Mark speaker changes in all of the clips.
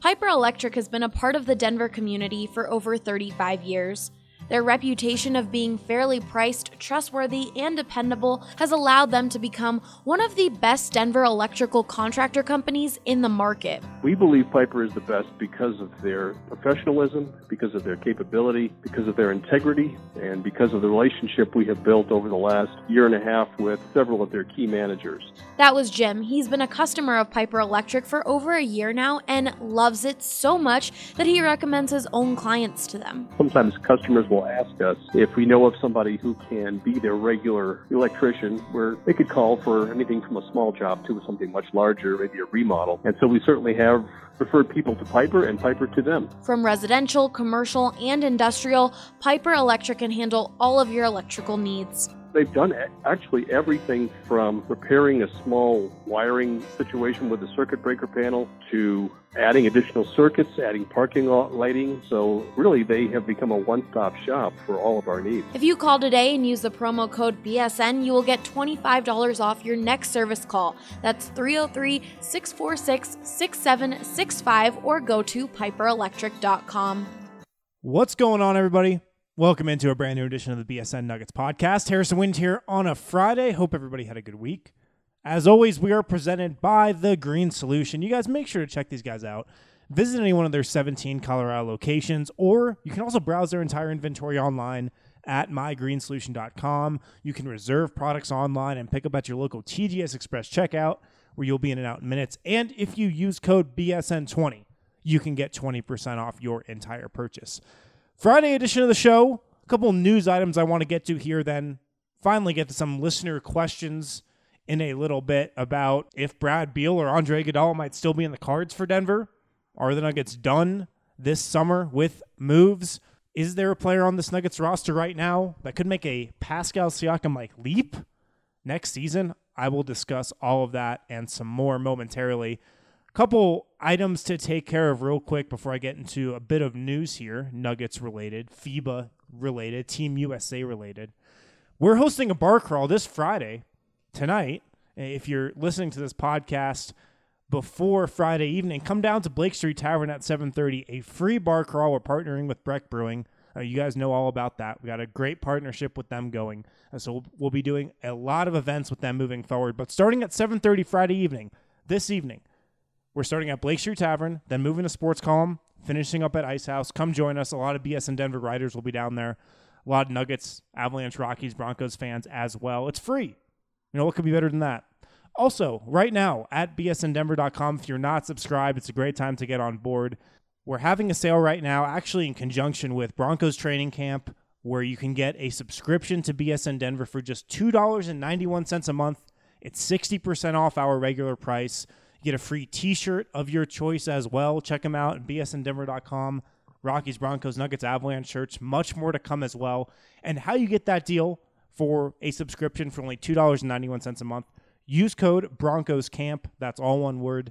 Speaker 1: Piper Electric has been a part of the Denver community for over 35 years. Their reputation of being fairly priced, trustworthy, and dependable has allowed them to become one of the best Denver electrical contractor companies in the market.
Speaker 2: We believe Piper is the best because of their professionalism, because of their capability, because of their integrity, and because of the relationship we have built over the last year and a half with several of their key managers.
Speaker 1: That was Jim. He's been a customer of Piper Electric for over a year now and loves it so much that he recommends his own clients to them.
Speaker 2: Sometimes customers will ask us if we know of somebody who can be their regular electrician, where they could call for anything from a small job to something much larger, maybe a remodel. And so we certainly have referred people to Piper and Piper to them.
Speaker 1: From residential, commercial, and industrial, Piper Electric can handle all of your electrical needs.
Speaker 2: They've done actually everything from repairing a small wiring situation with a circuit breaker panel to adding additional circuits, adding parking lot lighting. So really, they have become a one-stop shop for all of our needs.
Speaker 1: If you call today and use the promo code BSN, you will get $25 off your next service call. That's 303-646-6765 or go to piperelectric.com.
Speaker 3: What's going on, everybody? Welcome into a brand new edition of the BSN Nuggets podcast. Harrison Wind here on a Friday. Hope everybody had a good week. As always, we are presented by The Green Solution. You guys make sure to check these guys out. Visit any one of their 17 Colorado locations, or you can also browse their entire inventory online at mygreensolution.com. You can reserve products online and pick up at your local TGS Express checkout, where you'll be in and out in minutes. And if you use code BSN20, you can get 20% off your entire purchase. Friday edition of the show, a couple news items I want to get to here, then finally get to some listener questions in a little bit about if Brad Beal or Andre Iguodala might still be in the cards for Denver. Are the Nuggets done this summer with moves? Is there a player on this Nuggets roster right now that could make a Pascal Siakam-like leap next season? I will discuss all of that and some more momentarily. Couple items to take care of real quick before I get into a bit of news here, Nuggets related, FIBA related, Team USA related. We're hosting a bar crawl this Friday, tonight. If you're listening to this podcast before Friday evening, come down to Blake Street Tavern at 7:30, a free bar crawl. We're partnering with Breck Brewing. You guys know all about that. We got a great partnership with them going. So we'll be doing a lot of events with them moving forward. But starting at 7:30 Friday evening, this evening, we're starting at Blake Street Tavern, then moving to Sports Column, finishing up at Ice House. Come join us. A lot of BSN Denver writers will be down there. A lot of Nuggets, Avalanche, Rockies, Broncos fans as well. It's free. You know, what could be better than that? Also, right now at bsndenver.com, if you're not subscribed, it's a great time to get on board. We're having a sale right now, actually in conjunction with Broncos Training Camp, where you can get a subscription to BSN Denver for just $2.91 a month. It's 60% off our regular price. You get a free t-shirt of your choice as well. Check them out at bsndenver.com. Rockies, Broncos, Nuggets, Avalanche shirts. Much more to come as well. And how you get that deal for a subscription for only $2.91 a month, use code BroncosCamp. That's all one word,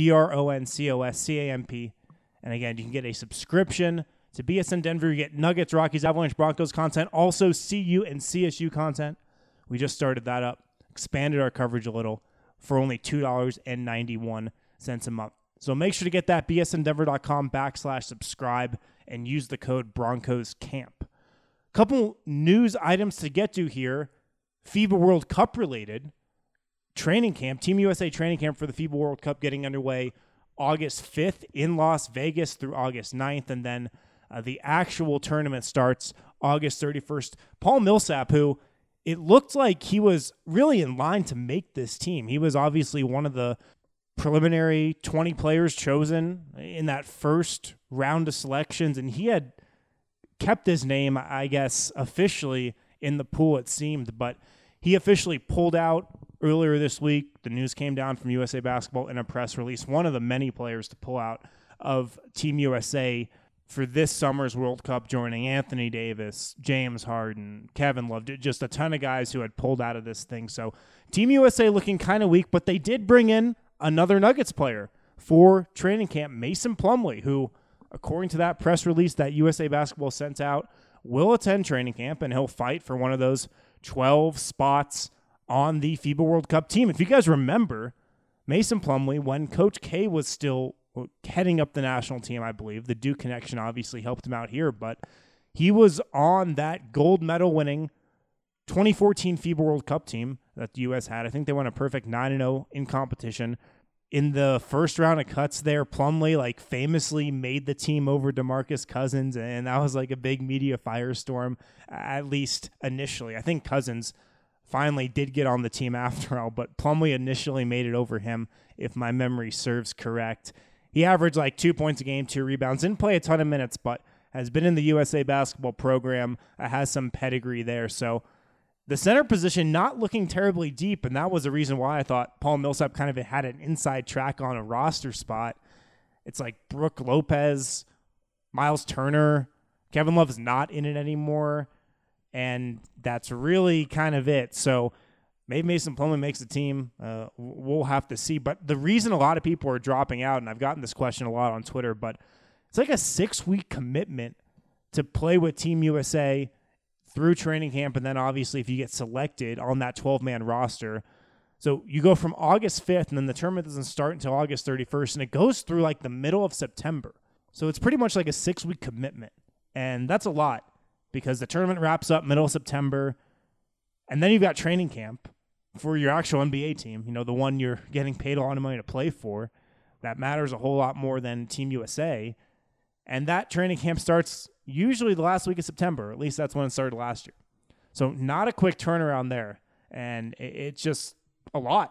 Speaker 3: BroncosCamp. And again, you can get a subscription to BSN Denver. You get Nuggets, Rockies, Avalanche, Broncos content. Also CU and CSU content. We just started that up. Expanded our coverage a little for only $2.91 a month. So make sure to get that, bsndenver.com/subscribe, and use the code BroncosCamp. Couple news items to get to here. FIBA World Cup related. Training camp, Team USA training camp for the FIBA World Cup getting underway August 5th in Las Vegas through August 9th, and then the actual tournament starts August 31st. Paul Millsap, who it looked like he was really in line to make this team. He was obviously one of the preliminary 20 players chosen in that first round of selections, and he had kept his name, I guess, officially in the pool, it seemed, but he officially pulled out earlier this week. The news came down from USA Basketball in a press release. One of the many players to pull out of Team USA for this summer's World Cup, joining Anthony Davis, James Harden, Kevin Love, just a ton of guys who had pulled out of this thing. So Team USA looking kind of weak, but they did bring in another Nuggets player for training camp, Mason Plumlee, who, according to that press release that USA Basketball sent out, will attend training camp, and he'll fight for one of those 12 spots on the FIBA World Cup team. If you guys remember, Mason Plumlee, when Coach K was still heading up the national team, I believe. The Duke connection obviously helped him out here, but he was on that gold medal winning 2014 FIBA World Cup team that the U.S. had. I think they went a perfect 9-0 in competition. In the first round of cuts there, Plumlee famously made the team over DeMarcus Cousins, and that was a big media firestorm, at least initially. I think Cousins finally did get on the team after all, but Plumlee initially made it over him, if my memory serves correct. He averaged 2 points a game, 2 rebounds, didn't play a ton of minutes, but has been in the USA basketball program, has some pedigree there. So the center position not looking terribly deep, and that was the reason why I thought Paul Millsap kind of had an inside track on a roster spot. It's Brooke Lopez, Miles Turner, Kevin Love is not in it anymore, and that's really kind of it. So maybe Mason Plumlee makes the team. We'll have to see. But the reason a lot of people are dropping out, and I've gotten this question a lot on Twitter, but it's a 6-week commitment to play with Team USA through training camp, and then obviously if you get selected on that 12-man roster. So you go from August 5th, and then the tournament doesn't start until August 31st, and it goes through the middle of September. So it's pretty much a 6-week commitment, and that's a lot because the tournament wraps up middle of September, and then you've got training camp for your actual NBA team, the one you're getting paid a lot of money to play for. That matters a whole lot more than Team USA, and that training camp starts usually the last week of September. At least that's when it started last year. So not a quick turnaround there. And it's just a lot.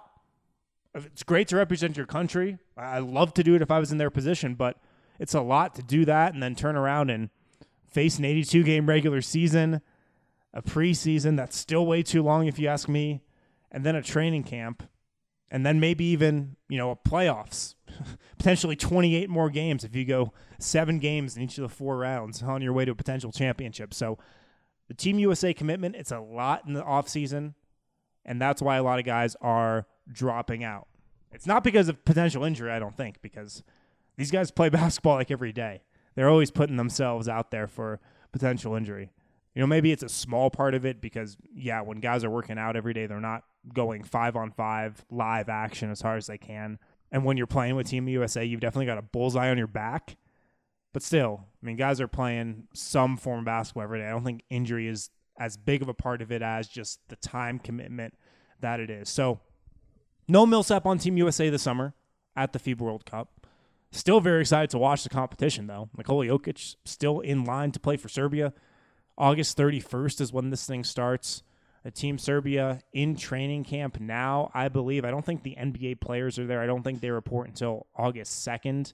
Speaker 3: It's great to represent your country. I love to do it if I was in their position, but it's a lot to do that and then turn around and face an 82-game regular season, a preseason that's still way too long if you ask me, and then a training camp, and then maybe even, a playoffs. Potentially 28 more games if you go 7 games in each of the 4 rounds on your way to a potential championship. So the Team USA commitment, it's a lot in the offseason, and that's why a lot of guys are dropping out. It's not because of potential injury, I don't think, because these guys play basketball every day. They're always putting themselves out there for potential injury. Maybe it's a small part of it because, when guys are working out every day, they're not going 5-on-5 live action as hard as they can. And when you're playing with Team USA, you've definitely got a bullseye on your back. But still, guys are playing some form of basketball every day. I don't think injury is as big of a part of it as just the time commitment that it is. So, no Millsap on Team USA this summer at the FIBA World Cup. Still very excited to watch the competition, though. Nikola Jokic still in line to play for Serbia. August 31st is when this thing starts. Team Serbia in training camp now, I believe. I don't think the NBA players are there. I don't think they report until August 2nd.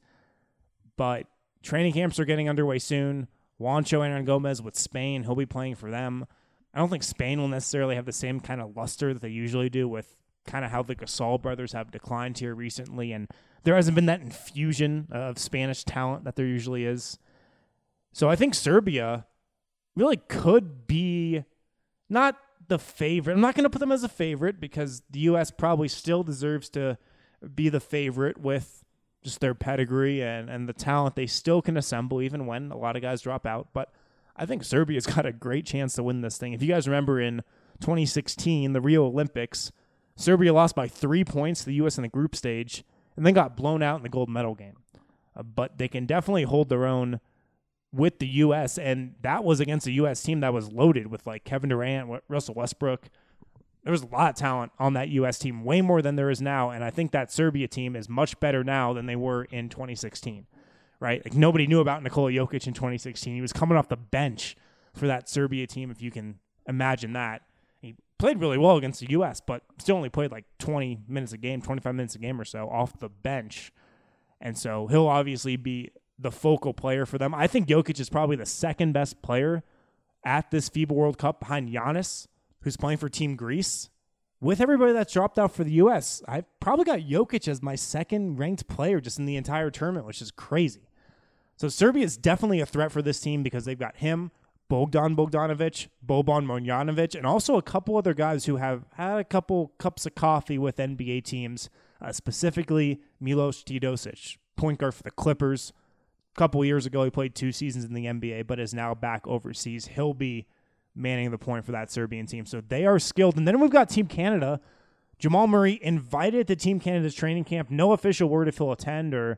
Speaker 3: But training camps are getting underway soon. Juancho Hernangomez with Spain, he'll be playing for them. I don't think Spain will necessarily have the same kind of luster that they usually do with kind of how the Gasol brothers have declined here recently. And there hasn't been that infusion of Spanish talent that there usually is. So I think Serbia really could be not the favorite. I'm not going to put them as a favorite because the U.S. probably still deserves to be the favorite with just their pedigree and the talent they still can assemble even when a lot of guys drop out. But I think Serbia's got a great chance to win this thing. If you guys remember in 2016, the Rio Olympics, Serbia lost by 3 points to the U.S. in the group stage and then got blown out in the gold medal game. But they can definitely hold their own with the U.S., and that was against a U.S. team that was loaded with Kevin Durant, Russell Westbrook. There was a lot of talent on that U.S. team, way more than there is now, and I think that Serbia team is much better now than they were in 2016, right? Nobody knew about Nikola Jokic in 2016. He was coming off the bench for that Serbia team, if you can imagine that. He played really well against the U.S., but still only played 20 minutes a game, 25 minutes a game or so off the bench, and so he'll obviously be the focal player for them. I think Jokic is probably the second best player at this FIBA World Cup behind Giannis, who's playing for Team Greece. With everybody that's dropped out for the U.S., I've probably got Jokic as my second-ranked player just in the entire tournament, which is crazy. So Serbia is definitely a threat for this team because they've got him, Bogdan Bogdanovic, Boban Marjanovic, and also a couple other guys who have had a couple cups of coffee with NBA teams, specifically Milos Teodosic, point guard for the Clippers. A couple years ago, he played 2 seasons in the NBA, but is now back overseas. He'll be manning the point for that Serbian team. So they are skilled. And then we've got Team Canada. Jamal Murray invited to Team Canada's training camp. No official word if he'll attend or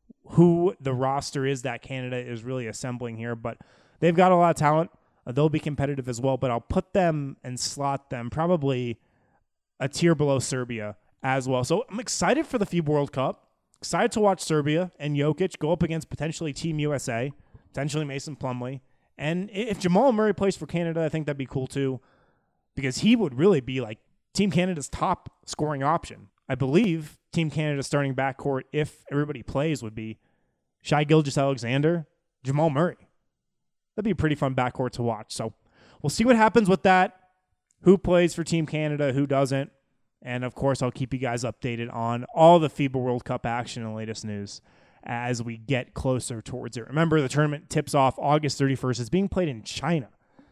Speaker 3: who the roster is that Canada is really assembling here, but they've got a lot of talent. They'll be competitive as well, but I'll put them and slot them probably a tier below Serbia as well. So I'm excited for the FIBA World Cup. Excited to watch Serbia and Jokic go up against potentially Team USA, potentially Mason Plumlee. And if Jamal Murray plays for Canada, I think that'd be cool too, because he would really be like Team Canada's top scoring option. I believe Team Canada's starting backcourt, if everybody plays, would be Shai Gilgeous-Alexander, Jamal Murray. That'd be a pretty fun backcourt to watch. So we'll see what happens with that, who plays for Team Canada, who doesn't. And, of course, I'll keep you guys updated on all the FIBA World Cup action and latest news as we get closer towards it. Remember, the tournament tips off August 31st. It's being played in China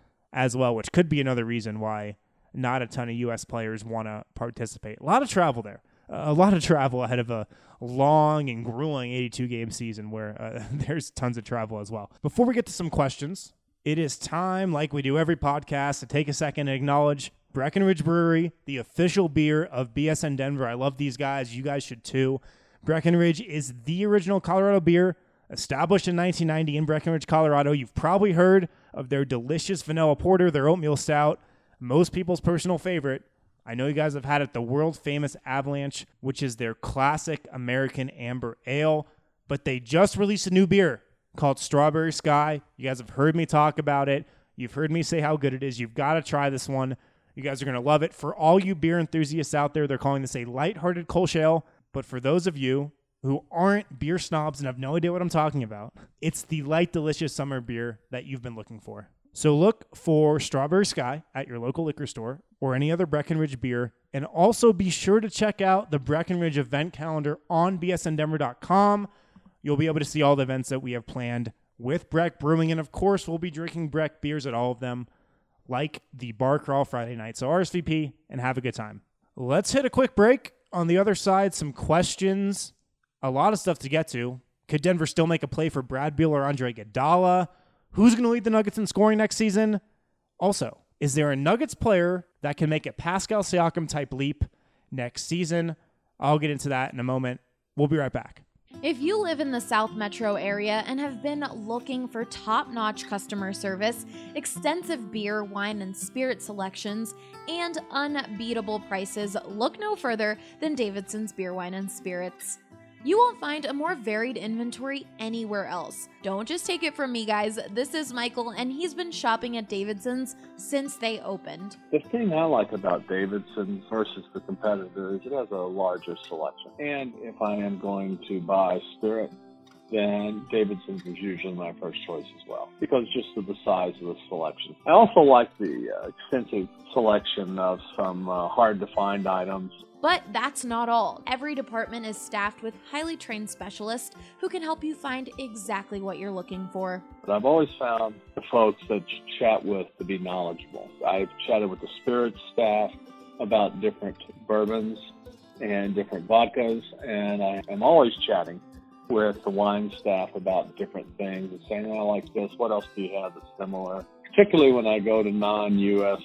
Speaker 3: as well, which could be another reason why not a ton of U.S. players want to participate. A lot of travel there. A lot of travel ahead of a long and grueling 82-game season where there's tons of travel as well. Before we get to some questions, it is time, like we do every podcast, to take a second and acknowledge Breckenridge Brewery, the official beer of BSN Denver. I love these guys. You guys should too. Breckenridge is the original Colorado beer, established in 1990 in Breckenridge, Colorado. You've probably heard of their delicious vanilla porter, their oatmeal stout, most people's personal favorite. I know you guys have had it, the world-famous Avalanche, which is their classic American amber ale, but they just released a new beer called Strawberry Sky. You guys have heard me talk about it. You've heard me say how good it is. You've got to try this one. You guys are going to love it. For all you beer enthusiasts out there, they're calling this a lighthearted Kolsch ale, but for those of you who aren't beer snobs and have no idea what I'm talking about, it's the light, delicious summer beer that you've been looking for. So look for Strawberry Sky at your local liquor store or any other Breckenridge beer. And also be sure to check out the Breckenridge event calendar on bsndenver.com. You'll be able to see all the events that we have planned with Breck Brewing. And, of course, we'll be drinking Breck beers at all of them, like the Bar Crawl Friday night. So RSVP and have a good time. Let's hit a quick break. On the other side, some questions. A lot of stuff to get to. Could Denver still make a play for Brad Beal or Andre Iguodala? Who's going to lead the Nuggets in scoring next season? Also, is there a Nuggets player that can make a Pascal Siakam-type leap next season? I'll get into that in a moment. We'll be right back.
Speaker 1: If you live in the South Metro area and have been looking for top-notch customer service, extensive beer, wine, and spirit selections, and unbeatable prices, look no further than Davidson's Beer, Wine, and Spirits. You won't find a more varied inventory anywhere else. Don't just take it from me, guys. This is Michael, and he's been shopping at Davidson's since they opened.
Speaker 4: The thing I like about Davidson's versus the competitors, it has a larger selection. And if I am going to buy spirit, then Davidson's is usually my first choice as well, because just of the size of the selection. I also like the extensive selection of some hard-to-find items.
Speaker 1: But that's not all. Every department is staffed with highly trained specialists who can help you find exactly what you're looking for.
Speaker 4: But I've always found the folks that you chat with to be knowledgeable. I've chatted with the spirits staff about different bourbons and different vodkas, and I am always chatting with the wine staff about different things and saying, I like this, what else do you have that's similar? Particularly when I go to non-U.S.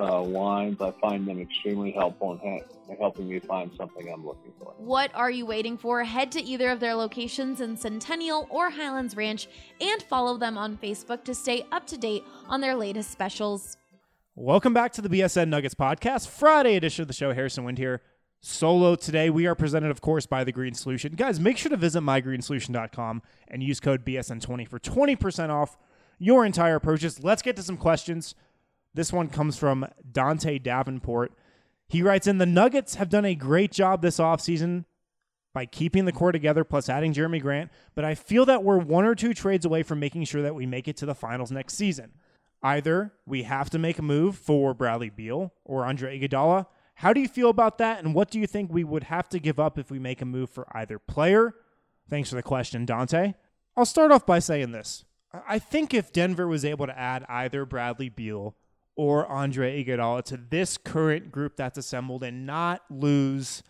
Speaker 4: wines, I find them extremely helpful in helping me find something I'm looking for.
Speaker 1: What are you waiting for? Head to either of their locations in Centennial or Highlands Ranch and follow them on Facebook to stay up to date on their latest specials.
Speaker 3: Welcome back to the BSN Nuggets podcast, Friday edition of the show. Harrison Wind here. Solo today. We are presented, of course, by The Green Solution. Guys, make sure to visit mygreensolution.com and use code BSN20 for 20% off your entire purchase. Let's get to some questions. This one comes from Dante Davenport. He writes in, the Nuggets have done a great job this offseason by keeping the core together plus adding Jeremy Grant, but I feel that we're one or two trades away from making sure that we make it to the finals next season. Either we have to make a move for Bradley Beal or Andre Iguodala. How do you feel about that, and what do you think we would have to give up if we make a move for either player? Thanks for the question, Dante. I'll start off by saying this. I think if Denver was able to add either Bradley Beal or Andre Iguodala to this current group that's assembled and not lose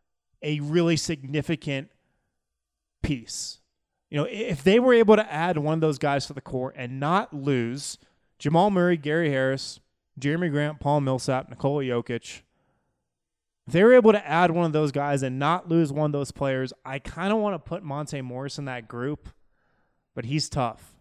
Speaker 3: a really significant piece. You know, if they were able to add one of those guys to the core and not lose Jamal Murray, Gary Harris, Jeremy Grant, Paul Millsap, Nikola Jokic, if they were able to add one of those guys and not lose one of those players, I kind of want to put Monte Morris in that group, but he's tough.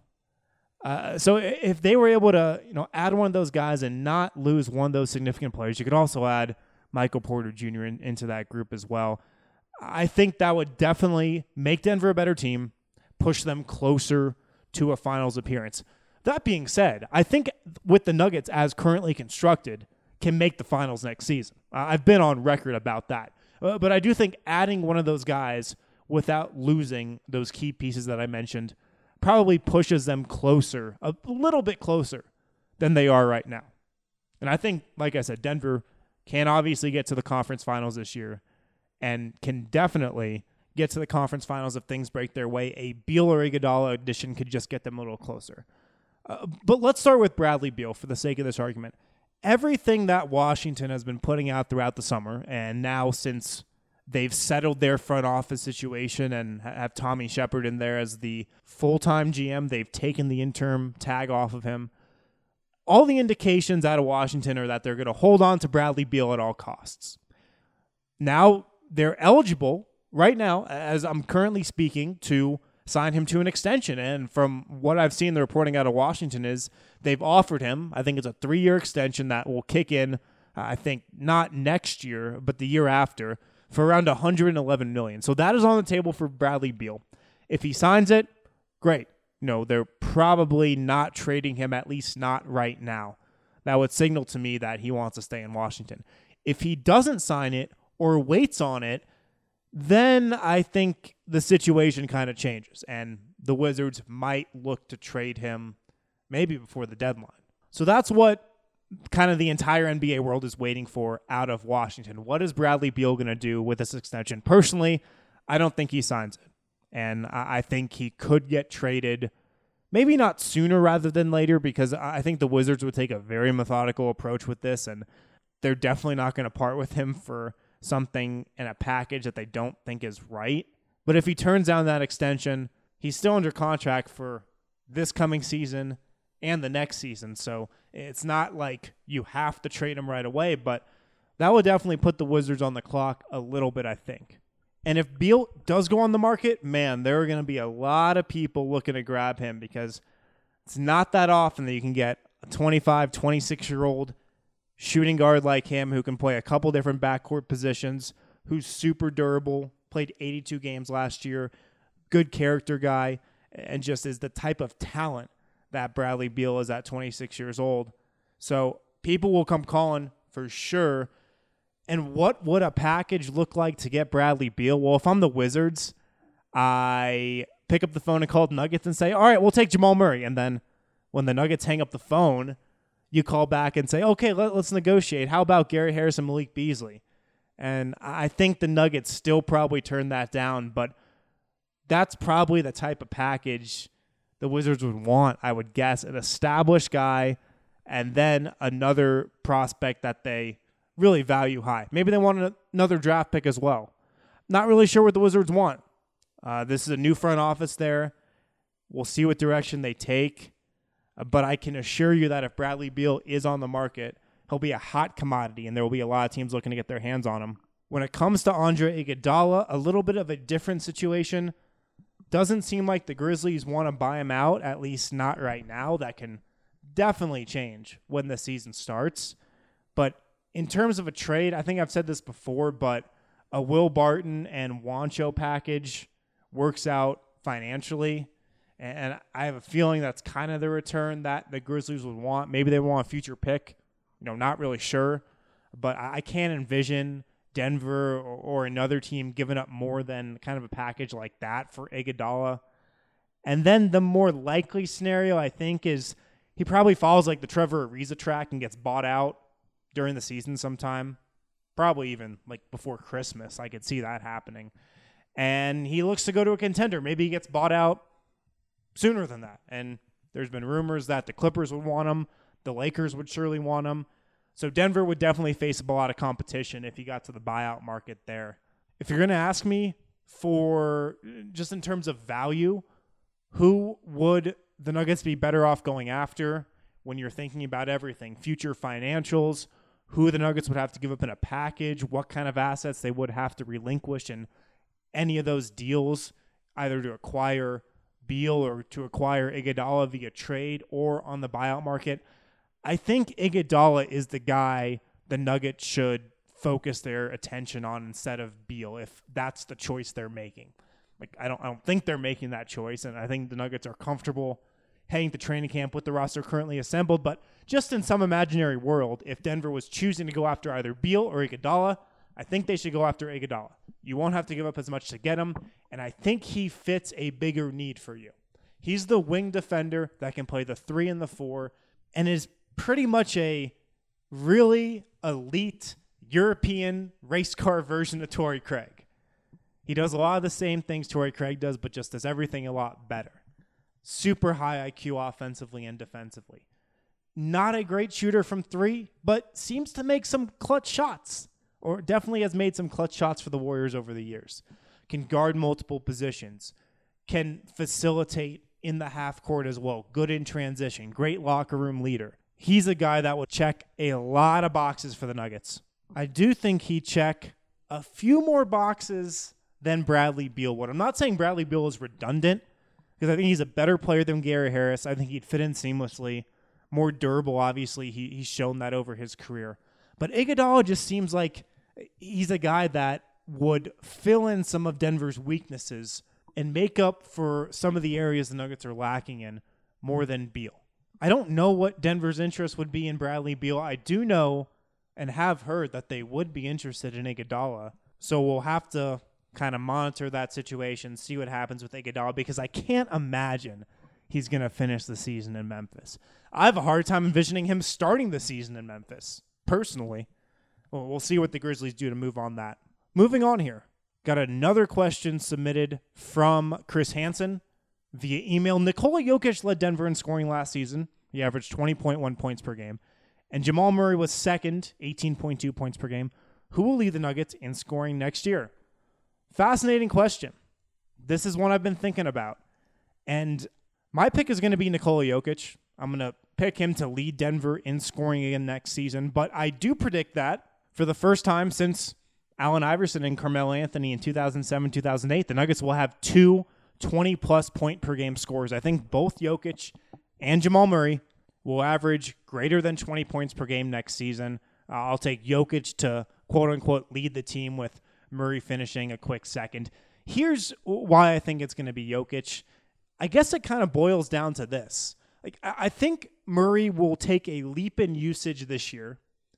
Speaker 3: So if they were able to, add one of those guys and not lose one of those significant players, you could also add Michael Porter Jr. into that group as well. I think that would definitely make Denver a better team, push them closer to a finals appearance. That being said, I think with the Nuggets as currently constructed, can make the finals next season. I've been on record about that. But I do think adding one of those guys without losing those key pieces that I mentioned probably pushes them closer, a little bit closer than they are right now. And I think, like I said, Denver can obviously get to the conference finals this year and can definitely get to the conference finals if things break their way. A Beal or Iguodala addition could just get them a little closer. But let's start with Bradley Beal for the sake of this argument. Everything that Washington has been putting out throughout the summer, and now since they've settled their front office situation and have Tommy Shepard in there as the full-time GM, they've taken the interim tag off of him. All the indications out of Washington are that they're going to hold on to Bradley Beal at all costs. Now, they're eligible right now, as I'm currently speaking, to sign him to an extension. And from what I've seen, the reporting out of Washington is they've offered him, I think it's a 3-year extension that will kick in, I think not next year, but the year after, for around $111 million. So that is on the table for Bradley Beal. If he signs it, great. They're probably not trading him, at least not right now. That would signal to me that he wants to stay in Washington. If he doesn't sign it or waits on it, then I think the situation kind of changes, and the Wizards might look to trade him maybe before the deadline. So that's what kind of the entire NBA world is waiting for out of Washington. What is Bradley Beal going to do with this extension? Personally, I don't think he signs it, and I think he could get traded, maybe not sooner rather than later, because I think the Wizards would take a very methodical approach with this, and they're definitely not going to part with him for something in a package that they don't think is right. But if he turns down that extension, he's still under contract for this coming season and the next season. So it's not like you have to trade him right away, but that would definitely put the Wizards on the clock a little bit, I think. And if Beal does go on the market, man, there are going to be a lot of people looking to grab him, because it's not that often that you can get a 25, 26-year-old shooting guard like him who can play a couple different backcourt positions, who's super durable, played 82 games last year, good character guy, and just is the type of talent that Bradley Beal is at 26 years old. So people will come calling for sure. And what would a package look like to get Bradley Beal? Well, if I'm the Wizards, I pick up the phone and call the Nuggets and say, all right, we'll take Jamal Murray. And then when the Nuggets hang up the phone, you call back and say, okay, let's negotiate. How about Gary Harris and Malik Beasley? And I think the Nuggets still probably turn that down, but that's probably the type of package the Wizards would want, I would guess. An established guy and then another prospect that they really value high. Maybe they want another draft pick as well. Not really sure what the Wizards want. This is a new front office there. We'll see what direction they take. But I can assure you that if Bradley Beal is on the market, he'll be a hot commodity, and there will be a lot of teams looking to get their hands on him. When it comes to Andre Iguodala, a little bit of a different situation. Doesn't seem like the Grizzlies want to buy him out, at least not right now. That can definitely change when the season starts. But in terms of a trade, I think I've said this before, but a Will Barton and Juancho package works out financially. And I have a feeling that's kind of the return that the Grizzlies would want. Maybe they want a future pick. Not really sure. But I can't envision Denver or another team giving up more than kind of a package like that for Iguodala. And then the more likely scenario, I think, is he probably follows like the Trevor Ariza track and gets bought out during the season sometime. Probably even like before Christmas. I could see that happening. And he looks to go to a contender. Maybe he gets bought out sooner than that. And there's been rumors that the Clippers would want him. The Lakers would surely want him. So Denver would definitely face a lot of competition if he got to the buyout market there. If you're going to ask me for just in terms of value, who would the Nuggets be better off going after when you're thinking about everything? Future financials, who the Nuggets would have to give up in a package, what kind of assets they would have to relinquish in any of those deals, either to acquire Beal or to acquire Iguodala via trade or on the buyout market. I think Iguodala is the guy the Nuggets should focus their attention on instead of Beal, if that's the choice they're making. Like, I don't think they're making that choice, and I think the Nuggets are comfortable heading to training camp with the roster currently assembled. But just in some imaginary world, if Denver was choosing to go after either Beal or Iguodala, I think they should go after Iguodala. You won't have to give up as much to get him, and I think he fits a bigger need for you. He's the wing defender that can play the 3 and the 4 and is pretty much a really elite European race car version of Torrey Craig. He does a lot of the same things Torrey Craig does, but just does everything a lot better. Super high IQ offensively and defensively. Not a great shooter from 3, but seems to make some clutch shots, or definitely has made some clutch shots for the Warriors over the years. Can guard multiple positions, can facilitate in the half court as well. Good in transition, great locker room leader. He's a guy that will check a lot of boxes for the Nuggets. I do think he check a few more boxes than Bradley Beal would. I'm not saying Bradley Beal is redundant, because I think he's a better player than Gary Harris. I think he'd fit in seamlessly. More durable, obviously. He's shown that over his career. But Iguodala just seems like he's a guy that would fill in some of Denver's weaknesses and make up for some of the areas the Nuggets are lacking in more than Beal. I don't know what Denver's interest would be in Bradley Beal. I do know and have heard that they would be interested in Iguodala. So we'll have to kind of monitor that situation, see what happens with Iguodala, because I can't imagine he's going to finish the season in Memphis. I have a hard time envisioning him starting the season in Memphis, personally. Well, we'll see what the Grizzlies do to move on that. Moving on here. Got another question submitted from Chris Hansen via email. Nikola Jokic led Denver in scoring last season. He averaged 20.1 points per game. And Jamal Murray was second, 18.2 points per game. Who will lead the Nuggets in scoring next year? Fascinating question. This is one I've been thinking about. And my pick is going to be Nikola Jokic. I'm going to pick him to lead Denver in scoring again next season. But I do predict that for the first time since Allen Iverson and Carmelo Anthony in 2007-2008, the Nuggets will have two 20-plus point per game scorers. I think both Jokic and Jamal Murray will average greater than 20 points per game next season. I'll take Jokic to quote-unquote lead the team with Murray finishing a quick second. Here's why I think it's going to be Jokic. I guess it kind of boils down to this. I think Murray will take a leap in usage this year.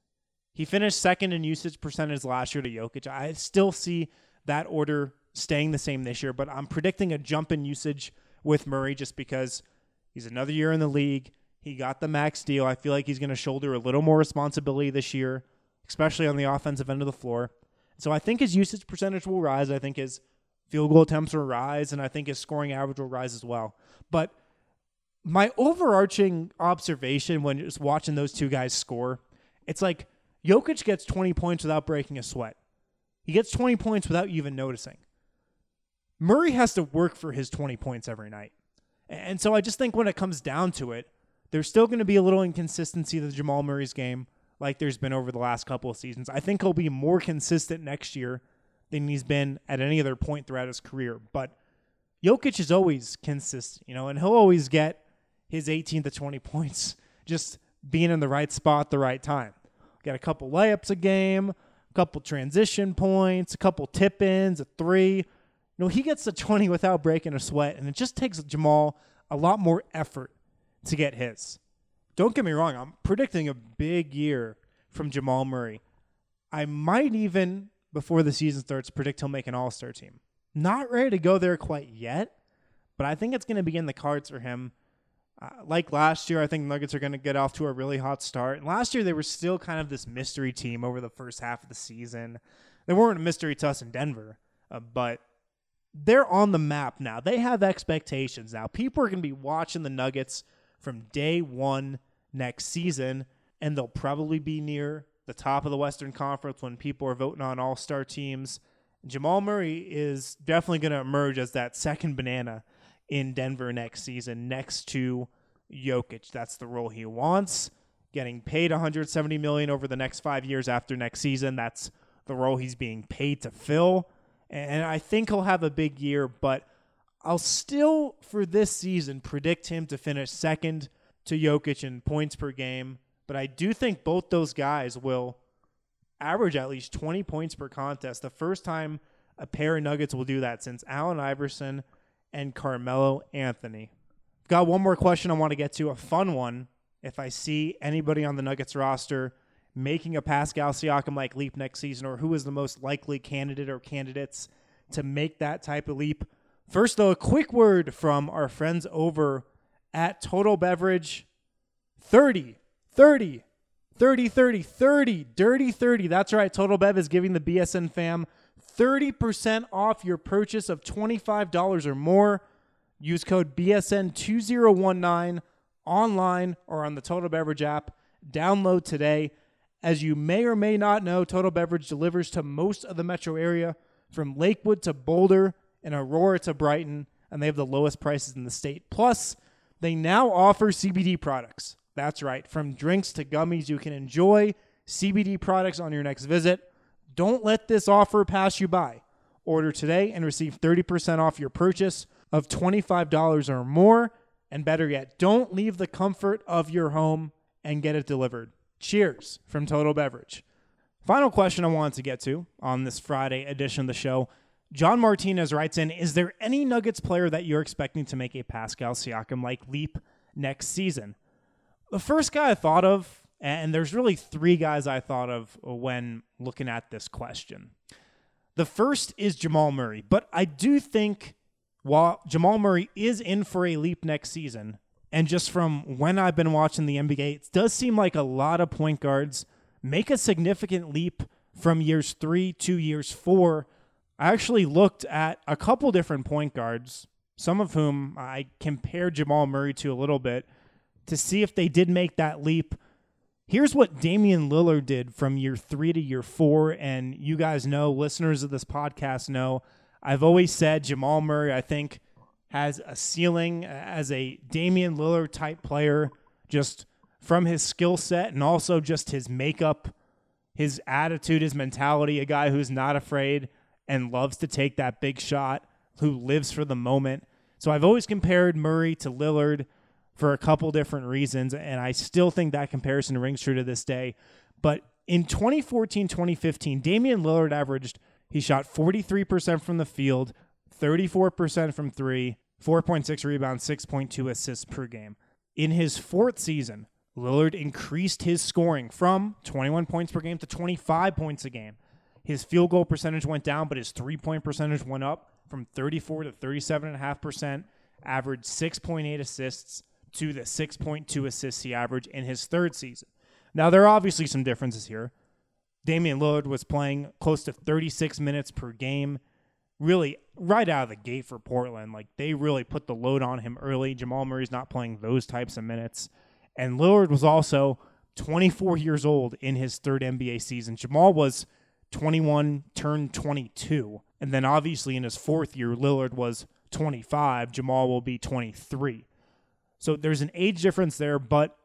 Speaker 3: He finished second in usage percentage last year to Jokic. I still see that order staying the same this year, but I'm predicting a jump in usage with Murray just because he's another year in the league. He got the max deal. I feel like he's going to shoulder a little more responsibility this year, especially on the offensive end of the floor. So I think his usage percentage will rise. I think his field goal attempts will rise, and I think his scoring average will rise as well. But my overarching observation when just watching those two guys score, it's like Jokic gets 20 points without breaking a sweat. He gets 20 points without you even noticing. Murray has to work for his 20 points every night. And so I just think when it comes down to it, there's still going to be a little inconsistency to Jamal Murray's game like there's been over the last couple of seasons. I think he'll be more consistent next year than he's been at any other point throughout his career. But Jokic is always consistent, and he'll always get his 18 to 20 points just being in the right spot at the right time. Get a couple layups a game, a couple transition points, a couple tip-ins, a 3. He gets to 20 without breaking a sweat, and it just takes Jamal a lot more effort to get his. Don't get me wrong, I'm predicting a big year from Jamal Murray. I might even, before the season starts, predict he'll make an all-star team. Not ready to go there quite yet, but I think it's going to be in the cards for him. Like last year, I think Nuggets are going to get off to a really hot start. And last year, they were still kind of this mystery team over the first half of the season. They weren't a mystery to us in Denver, but they're on the map now. They have expectations now. People are going to be watching the Nuggets from day one next season, and they'll probably be near the top of the Western Conference when people are voting on all-star teams. Jamal Murray is definitely going to emerge as that second banana in Denver next season next to Jokic. That's the role he wants, getting paid $170 million over the next 5 years after next season. That's the role he's being paid to fill. And I think he'll have a big year, but I'll still, for this season, predict him to finish second to Jokic in points per game. But I do think both those guys will average at least 20 points per contest. The first time a pair of Nuggets will do that since Allen Iverson and Carmelo Anthony. Got one more question I want to get to, a fun one. If I see anybody on the Nuggets roster making a Pascal Siakam-like leap next season, or who is the most likely candidate or candidates to make that type of leap. First, though, a quick word from our friends over at Total Beverage. 30, Dirty 30. That's right. Total Bev is giving the BSN fam 30% off your purchase of $25 or more. Use code BSN2019 online or on the Total Beverage app. Download today. As you may or may not know, Total Beverage delivers to most of the metro area, from Lakewood to Boulder and Aurora to Brighton, and they have the lowest prices in the state. Plus, they now offer CBD products. That's right. From drinks to gummies, you can enjoy CBD products on your next visit. Don't let this offer pass you by. Order today and receive 30% off your purchase of $25 or more. And better yet, don't leave the comfort of your home and get it delivered. Cheers from Total Beverage. Final question I wanted to get to on this Friday edition of the show. John Martinez writes in, is there any Nuggets player that you're expecting to make a Pascal Siakam-like leap next season? The first guy I thought of, and there's really three guys I thought of when looking at this question. The first is Jamal Murray, but I do think while Jamal Murray is in for a leap next season, and just from when I've been watching the NBA, it does seem like a lot of point guards make a significant leap from years 3 to years 4. I actually looked at a couple different point guards, some of whom I compared Jamal Murray to a little bit, to see if they did make that leap. Here's what Damian Lillard did from year 3 to year 4, and you guys know, listeners of this podcast know, I've always said Jamal Murray, I think, has a ceiling as a Damian Lillard type player, just from his skill set and also just his makeup, his attitude, his mentality, a guy who's not afraid and loves to take that big shot, who lives for the moment. So I've always compared Murray to Lillard for a couple different reasons, and I still think that comparison rings true to this day. But in 2014-2015, Damian Lillard he shot 43% from the field, 34% from three, 4.6 rebounds, 6.2 assists per game. In his fourth season, Lillard increased his scoring from 21 points per game to 25 points a game. His field goal percentage went down, but his three-point percentage went up from 34 to 37.5%, averaged 6.8 assists to the 6.2 assists he averaged in his third season. Now, there are obviously some differences here. Damian Lillard was playing close to 36 minutes per game, really right out of the gate for Portland. Like, they really put the load on him early. Jamal Murray's not playing those types of minutes. And Lillard was also 24 years old in his third NBA season. Jamal was 21, turned 22. And then obviously in his fourth year, Lillard was 25. Jamal will be 23. So there's an age difference there, but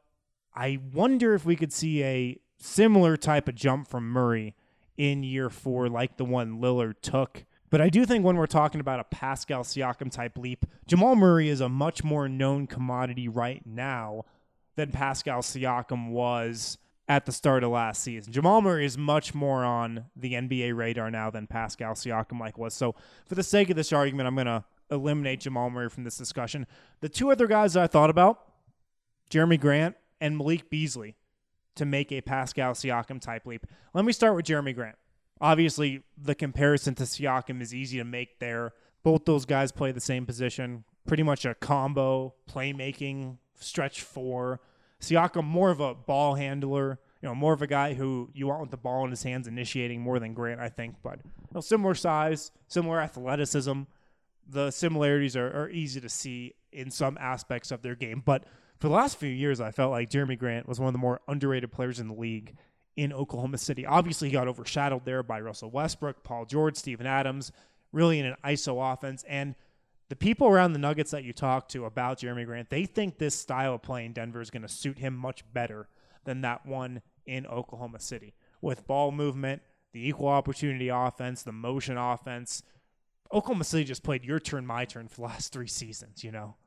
Speaker 3: I wonder if we could see a similar type of jump from Murray in year 4 like the one Lillard took. But I do think when we're talking about a Pascal Siakam type leap, Jamal Murray is a much more known commodity right now than Pascal Siakam was at the start of last season. Jamal Murray is much more on the NBA radar now than Pascal Siakam was. So for the sake of this argument, I'm going to eliminate Jamal Murray from this discussion. The two other guys that I thought about, Jeremy Grant and Malik Beasley, to make a Pascal Siakam type leap. Let me start with Jeremy Grant. Obviously, the comparison to Siakam is easy to make there. Both those guys play the same position, pretty much a combo, playmaking, stretch 4. Siakam, more of a ball handler, more of a guy who you want with the ball in his hands initiating more than Grant, I think. But similar size, similar athleticism. The similarities are easy to see in some aspects of their game. But for the last few years, I felt like Jeremy Grant was one of the more underrated players in the league in Oklahoma City. Obviously, he got overshadowed there by Russell Westbrook, Paul George, Steven Adams, really in an ISO offense. And the people around the Nuggets that you talk to about Jeremy Grant, they think this style of play in Denver is going to suit him much better than that one in Oklahoma City. With ball movement, the equal opportunity offense, the motion offense, Oklahoma City just played your turn, my turn for the last 3 seasons,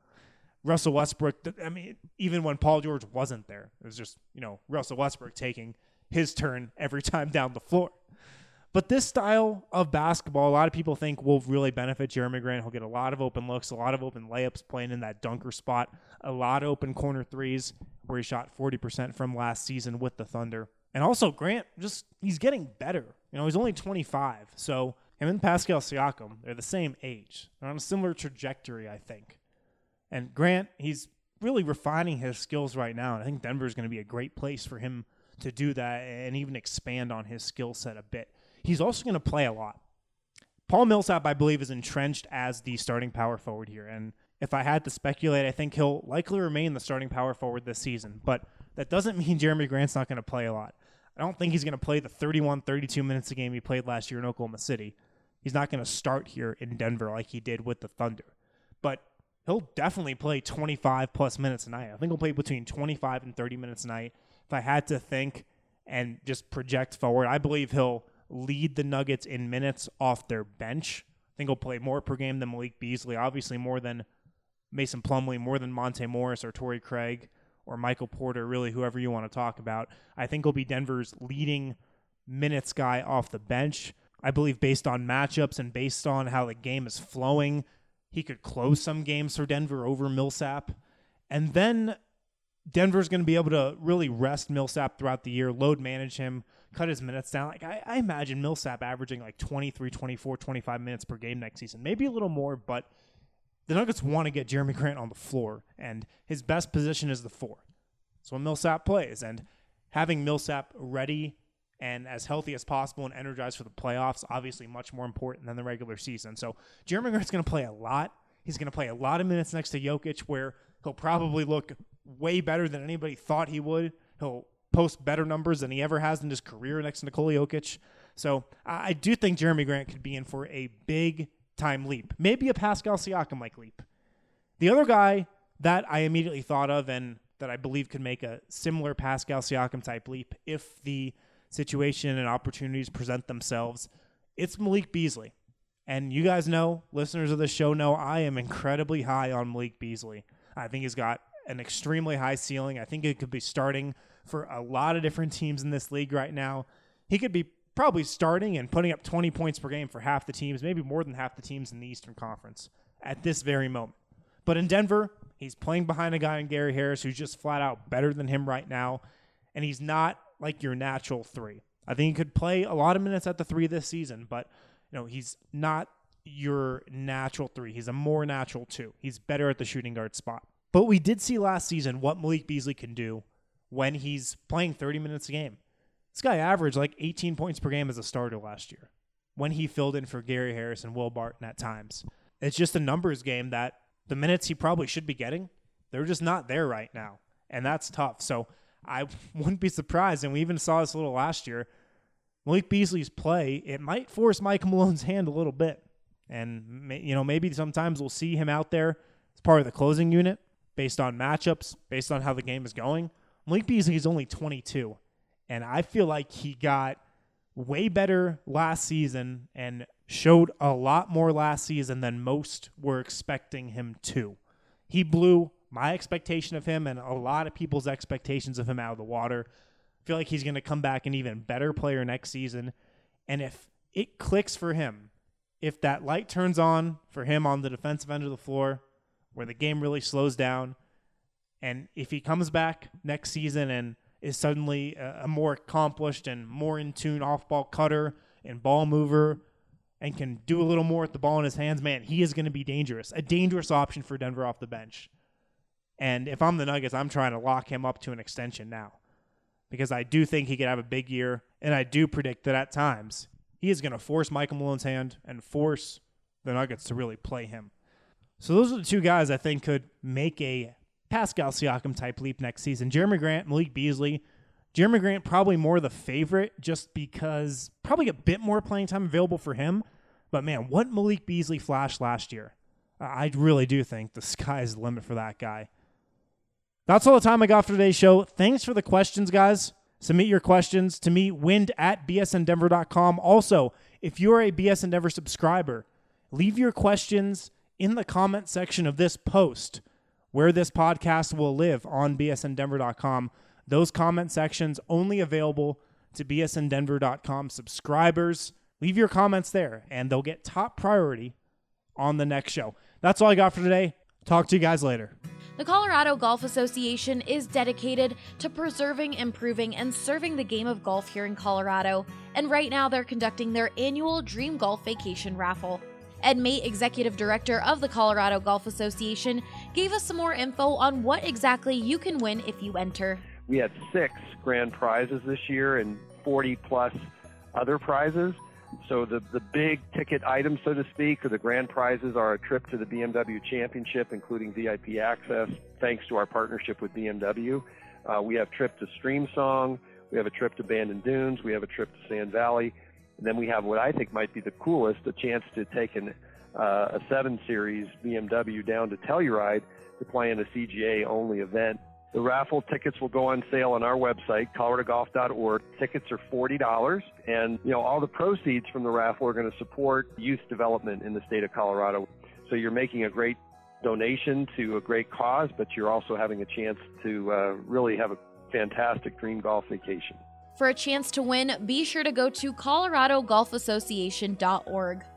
Speaker 3: Russell Westbrook, even when Paul George wasn't there, it was just, Russell Westbrook taking his turn every time down the floor. But this style of basketball, a lot of people think will really benefit Jerami Grant. He'll get a lot of open looks, a lot of open layups playing in that dunker spot, a lot of open corner threes where he shot 40% from last season with the Thunder. And also Grant, he's getting better. He's only 25. So him and Pascal Siakam, they're the same age. They're on a similar trajectory, I think. And Grant, he's really refining his skills right now. And I think Denver is going to be a great place for him to do that and even expand on his skill set a bit. He's also going to play a lot. Paul Millsap, I believe, is entrenched as the starting power forward here. And if I had to speculate, I think he'll likely remain the starting power forward this season. But that doesn't mean Jerami Grant's not going to play a lot. I don't think he's going to play the 31, 32 minutes a game he played last year in Oklahoma City. He's not going to start here in Denver like he did with the Thunder. But he'll definitely play 25-plus minutes a night. I think he'll play between 25 and 30 minutes a night. If I had to think and just project forward, I believe he'll lead the Nuggets in minutes off their bench. I think he'll play more per game than Malik Beasley, obviously more than Mason Plumlee, more than Monte Morris or Torrey Craig or Michael Porter, really whoever you want to talk about. I think he'll be Denver's leading minutes guy off the bench. I believe based on matchups and based on how the game is flowing, he could close some games for Denver over Millsap. And then Denver's going to be able to really rest Millsap throughout the year, load manage him, cut his minutes down. Like I imagine Millsap averaging like 23, 24, 25 minutes per game next season. Maybe a little more, but the Nuggets want to get Jerami Grant on the floor, and his best position is the 4. So when Millsap plays, and having Millsap ready and as healthy as possible and energized for the playoffs, obviously much more important than the regular season. So Jerami Grant's going to play a lot. He's going to play a lot of minutes next to Jokic, where he'll probably look way better than anybody thought he would. He'll post better numbers than he ever has in his career next to Nikola Jokic. So I do think Jerami Grant could be in for a big-time leap. Maybe a Pascal Siakam-like leap. The other guy that I immediately thought of and that I believe could make a similar Pascal Siakam-type leap if the situation and opportunities present themselves, it's Malik Beasley. And you guys know, listeners of this show know, I am incredibly high on Malik Beasley. I think he's got an extremely high ceiling. I think it could be starting for a lot of different teams in this league right now. He could be probably starting and putting up 20 points per game for half the teams, maybe more than half the teams in the Eastern Conference at this very moment. But in Denver, he's playing behind a guy in Gary Harris who's just flat out better than him right now, and he's not like your natural 3. I think he could play a lot of minutes at the 3 this season, but he's not your natural 3. He's a more natural 2. He's better at the shooting guard spot. But we did see last season what Malik Beasley can do when he's playing 30 minutes a game. This guy averaged like 18 points per game as a starter last year when he filled in for Gary Harris and Will Barton at times. It's just a numbers game that the minutes he probably should be getting, they're just not there right now. And that's tough. So I wouldn't be surprised, and we even saw this a little last year, Malik Beasley's play, it might force Mike Malone's hand a little bit. And maybe sometimes we'll see him out there as part of the closing unit based on matchups, based on how the game is going. Malik Beasley is only 22, and I feel like he got way better last season and showed a lot more last season than most were expecting him to. He blew my expectation of him and a lot of people's expectations of him out of the water. I feel like he's going to come back an even better player next season. And if it clicks for him, if that light turns on for him on the defensive end of the floor, where the game really slows down, and if he comes back next season and is suddenly a more accomplished and more in tune off-ball cutter and ball mover and can do a little more with the ball in his hands, man, he is going to be dangerous. A dangerous option for Denver off the bench. And if I'm the Nuggets, I'm trying to lock him up to an extension now, because I do think he could have a big year, and I do predict that at times he is going to force Michael Malone's hand and force the Nuggets to really play him. So those are the 2 guys I think could make a Pascal Siakam-type leap next season. Jerami Grant, Malik Beasley. Jerami Grant probably more the favorite just because probably a bit more playing time available for him. But, man, what Malik Beasley flashed last year. I really do think the sky is the limit for that guy. That's all the time I got for today's show. Thanks for the questions, guys. Submit your questions to me, wind@bsndenver.com. Also, if you're a BSN Denver subscriber, leave your questions in the comment section of this post where this podcast will live on bsndenver.com. Those comment sections only available to bsndenver.com subscribers. Leave your comments there, and they'll get top priority on the next show. That's all I got for today. Talk to you guys later.
Speaker 1: The Colorado Golf Association is dedicated to preserving, improving, and serving the game of golf here in Colorado, and right now they're conducting their annual Dream Golf Vacation Raffle. Ed Mate, Executive Director of the Colorado Golf Association, gave us some more info on what exactly you can win if you enter.
Speaker 2: We had 6 grand prizes this year and 40-plus other prizes. So the big ticket items, so to speak, or the grand prizes are a trip to the BMW Championship, including VIP access, thanks to our partnership with BMW. We have a trip to Streamsong. We have a trip to Bandon Dunes. We have a trip to Sand Valley. And then we have what I think might be the coolest, a chance to take a 7 Series BMW down to Telluride to play in a CGA-only event. The raffle tickets will go on sale on our website, coloradogolf.org. Tickets are $40, and all the proceeds from the raffle are going to support youth development in the state of Colorado. So you're making a great donation to a great cause, but you're also having a chance to really have a fantastic dream golf vacation.
Speaker 1: For a chance to win, be sure to go to coloradogolfassociation.org.